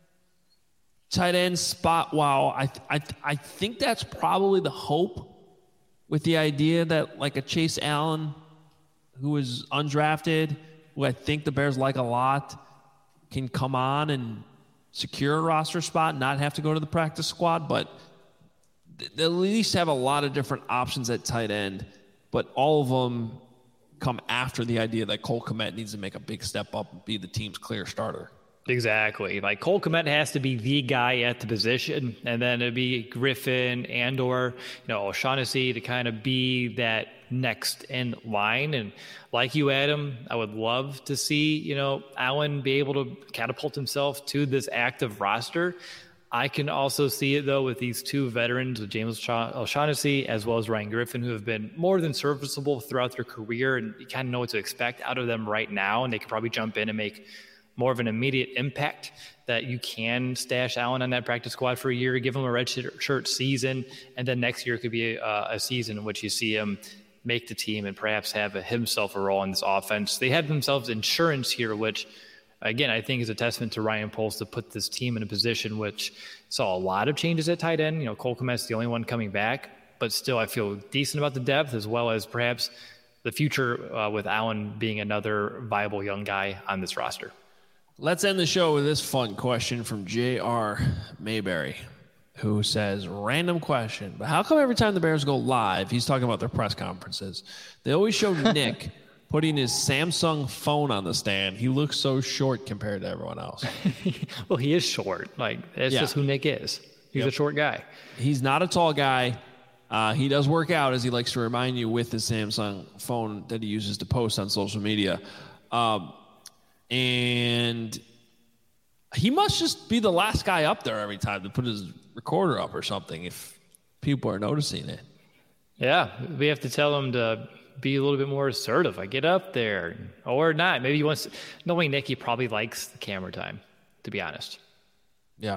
tight end spot. Wow, I think that's probably the hope, with the idea that like a Chase Allen, who is undrafted, who I think the Bears like a lot, can come on and secure a roster spot, not have to go to the practice squad, but they at least have a lot of different options at tight end, but all of them come after the idea that Cole Kmet needs to make a big step up and be the team's clear starter.
Exactly. Like Cole Kmet has to be the guy at the position, and then it'd be Griffin and/or O'Shaughnessy to kind of be that next in line. And like you, Adam, I would love to see Allen be able to catapult himself to this active roster. I can also see it, though, with these two veterans, with James O'Shaughnessy as well as Ryan Griffin, who have been more than serviceable throughout their career, and you kind of know what to expect out of them right now, and they could probably jump in and make more of an immediate impact, that you can stash Allen on that practice squad for a year, give him a red shirt season, and then next year could be a season in which you see him make the team and perhaps have himself a role in this offense. They have themselves insurance here, which, again, I think is a testament to Ryan Poles to put this team in a position which saw a lot of changes at tight end. Cole Kmet's the only one coming back, but still I feel decent about the depth, as well as perhaps the future with Allen being another viable young guy on this roster.
Let's end the show with this fun question from J.R. Mayberry, who says, random question, but how come every time the Bears go live, he's talking about their press conferences, they always show Nick putting his Samsung phone on the stand? He looks so short compared to everyone else.
Well, he is short. That's just who Nick is. He's a short guy.
He's not a tall guy. He does work out, as he likes to remind you, with his Samsung phone that he uses to post on social media. And he must just be the last guy up there every time to put his recorder up or something, if people are noticing it.
Yeah, we have to tell him to be a little bit more assertive. Get up there, or not. Maybe he wants to. Knowing Nick, he probably likes the camera time, to be honest.
Yeah.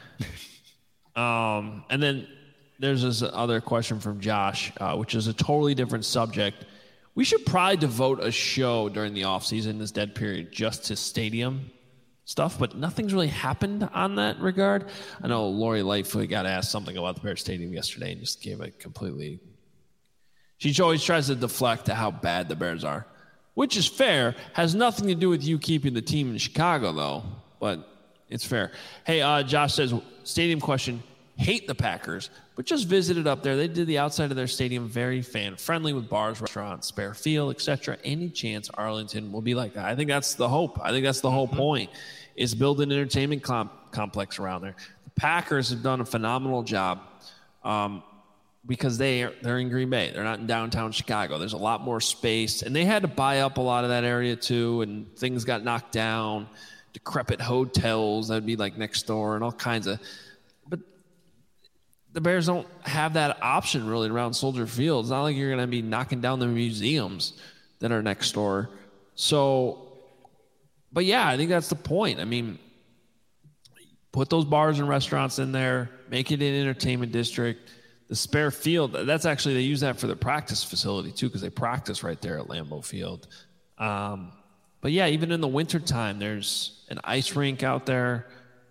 And then there's this other question from Josh, which is a totally different subject. We should probably devote a show during the offseason, this dead period, just to stadium stuff, but nothing's really happened on that regard. I know Lori Lightfoot got asked something about the Bears Stadium yesterday and just gave it completely. She always tries to deflect to how bad the Bears are, which is fair. Has nothing to do with you keeping the team in Chicago, though, but it's fair. Hey, Josh says, stadium question, hate the Packers, but just visited up there. They did the outside of their stadium very fan-friendly with bars, restaurants, spare field, etc. Any chance Arlington will be like that? I think that's the hope. I think that's the whole point, is build an entertainment complex around there. The Packers have done a phenomenal job because they're in Green Bay. They're not in downtown Chicago. There's a lot more space, and they had to buy up a lot of that area too, and things got knocked down, decrepit hotels that would be like next door and all kinds of – the Bears don't have that option really around Soldier Field. It's not like you're going to be knocking down the museums that are next door. So, but yeah, I think that's the point. I mean, put those bars and restaurants in there, make it an entertainment district. The spare field, that's actually, they use that for the practice facility too, because they practice right there at Lambeau Field. But yeah, even in the wintertime, there's an ice rink out there.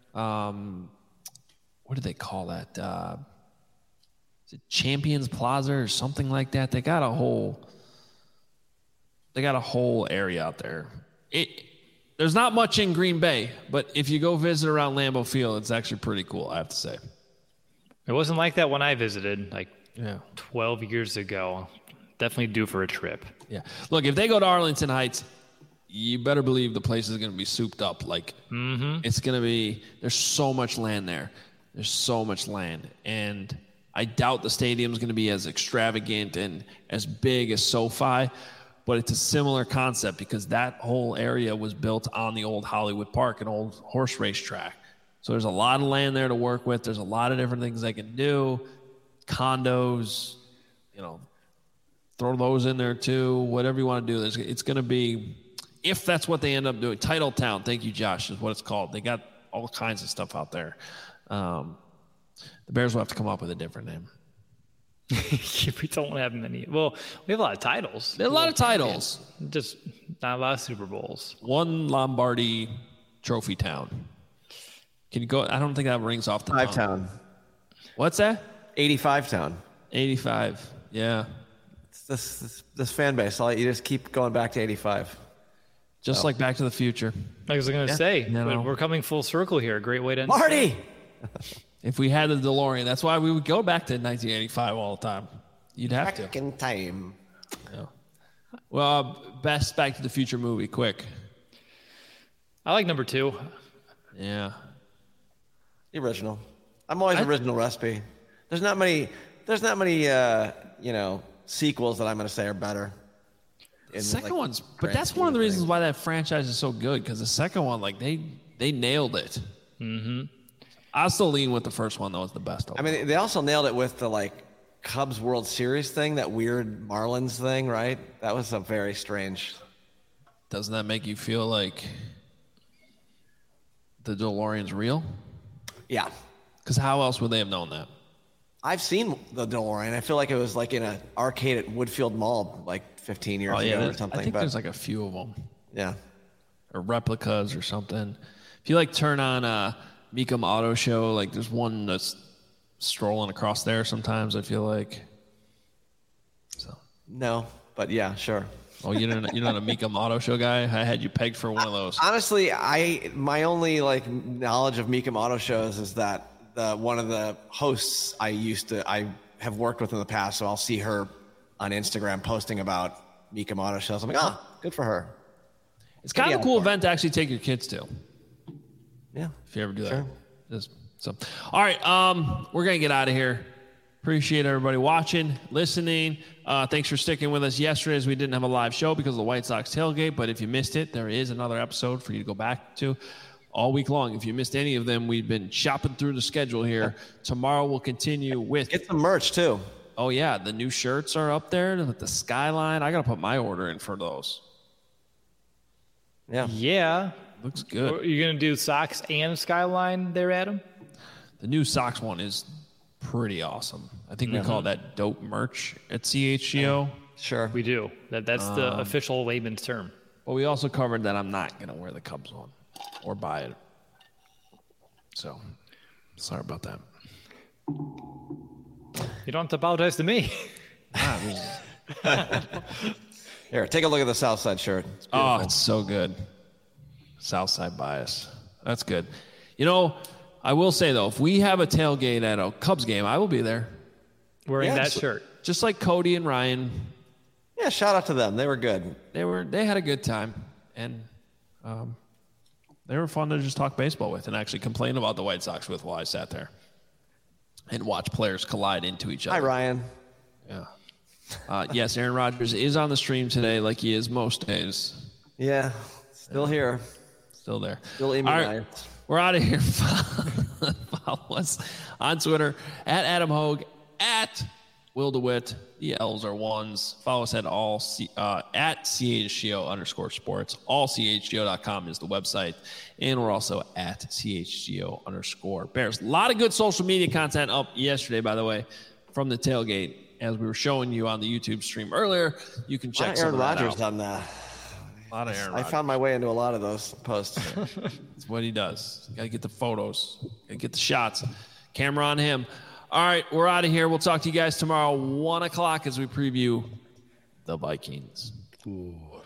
What do they call that? Is it Champions Plaza or something like that? They got a whole area out there. There's not much in Green Bay, but if you go visit around Lambeau Field, it's actually pretty cool, I have to say.
It wasn't like that when I visited 12 years ago. Definitely due for a trip.
Yeah. Look, if they go to Arlington Heights, you better believe the place is going to be souped up. Like, it's going to be, there's so much land there. There's so much land. And I doubt the stadium's going to be as extravagant and as big as SoFi, but it's a similar concept because that whole area was built on the old Hollywood Park, an old horse race track. So there's a lot of land there to work with. There's a lot of different things they can do. Condos, throw those in there too. Whatever you want to do. It's going to be, if that's what they end up doing. Titletown, thank you, Josh, is what it's called. They got all kinds of stuff out there. The Bears will have to come up with a different name.
We don't have many. Well, we have a lot of titles.
There are a lot of titles.
Just not a lot of Super Bowls.
One Lombardi Trophy Town. Can you go? I don't think that rings off the tongue.
5 Town.
What's that?
85 Town.
85. Yeah.
It's this fan base. I'll let you just keep going back to 85.
Just like Back to the Future.
I was going to say, we're coming full circle here. Great way to end.
Marty!
If we had the DeLorean, that's why we would go back to 1985 all the time. You'd have
back in time.
Yeah. Well, best Back to the Future movie, quick.
I like number 2.
Yeah.
The original. I'm always original recipe. There's not many sequels that I'm going to say are better.
The second one's, but that's one of the reasons why that franchise is so good, because the second one, like, they nailed it. Mm-hmm. I'll still lean with the first one, though, as the best.
I mean, they also nailed it with the, Cubs World Series thing, that weird Marlins thing, right? That was a very strange.
Doesn't that make you feel like the DeLorean's real?
Yeah.
Because how else would they have known that?
I've seen the DeLorean. I feel like it was in an arcade at Woodfield Mall 15 years ago or something.
I think there's a few of them.
Yeah.
Or replicas or something. If you turn on Meekum Auto Show, there's one that's strolling across there sometimes, I feel like. So.
No, but yeah, sure.
Oh, you're not a Meekum Auto Show guy? I had you pegged for one of those.
Honestly, my only knowledge of Meekum Auto Shows is that one of the hosts I have worked with in the past, so I'll see her on Instagram posting about Meekum Auto Shows. I'm like, good for her.
It's kind of a cool event to actually take your kids to.
Yeah.
If you ever do
sure.
that. All right, we're going to get out of here. Appreciate everybody watching, listening. Thanks for sticking with us yesterday, as we didn't have a live show because of the White Sox tailgate. But if you missed it, there is another episode for you to go back to all week long. If you missed any of them, we've been shopping through the schedule here. Tomorrow we'll continue with...
Get some merch, too.
Oh, yeah. The new shirts are up there with the Skyline. I got to put my order in for those.
Yeah.
Yeah.
Looks good.
Are you going to do socks and Skyline there, Adam?
The new socks one is pretty awesome. I think we call that dope merch at CHGO.
Sure.
We do. That's the official layman's term.
But we also covered that I'm not going to wear the Cubs one or buy it. So, sorry about that.
You don't have to apologize to me.
Here, take a look at the Southside shirt.
It's so good. Southside bias. That's good. I will say, though, if we have a tailgate at a Cubs game, I will be there.
Wearing that shirt.
Just like Cody and Ryan.
Yeah, shout out to them. They were good.
They had a good time. And they were fun to just talk baseball with and actually complain about the White Sox with while I sat there and watch players collide into each other.
Hi, Ryan.
Yeah. Yes, Aaron Rodgers is on the stream today like he is most days.
Yeah, still here.
Still there.
Still immunized.
Right, we're out of here. Follow us on Twitter at Adam Hogue, at Will DeWitt. The L's are ones. Follow us at at CHGO_sports. AllCHGO.com is the website. And we're also at CHGO_Bears. A lot of good social media content up yesterday, by the way, from the tailgate. As we were showing you on the YouTube stream earlier, you can check some of that out.
Aaron Rodgers on that.
A lot of Aaron Rodgers.
I found my way into a lot of those posts.
That's what he does. You got to get the photos. Got to get the shots. Camera on him. All right, we're out of here. We'll talk to you guys tomorrow, 1 o'clock, as we preview the Vikings.
Ooh.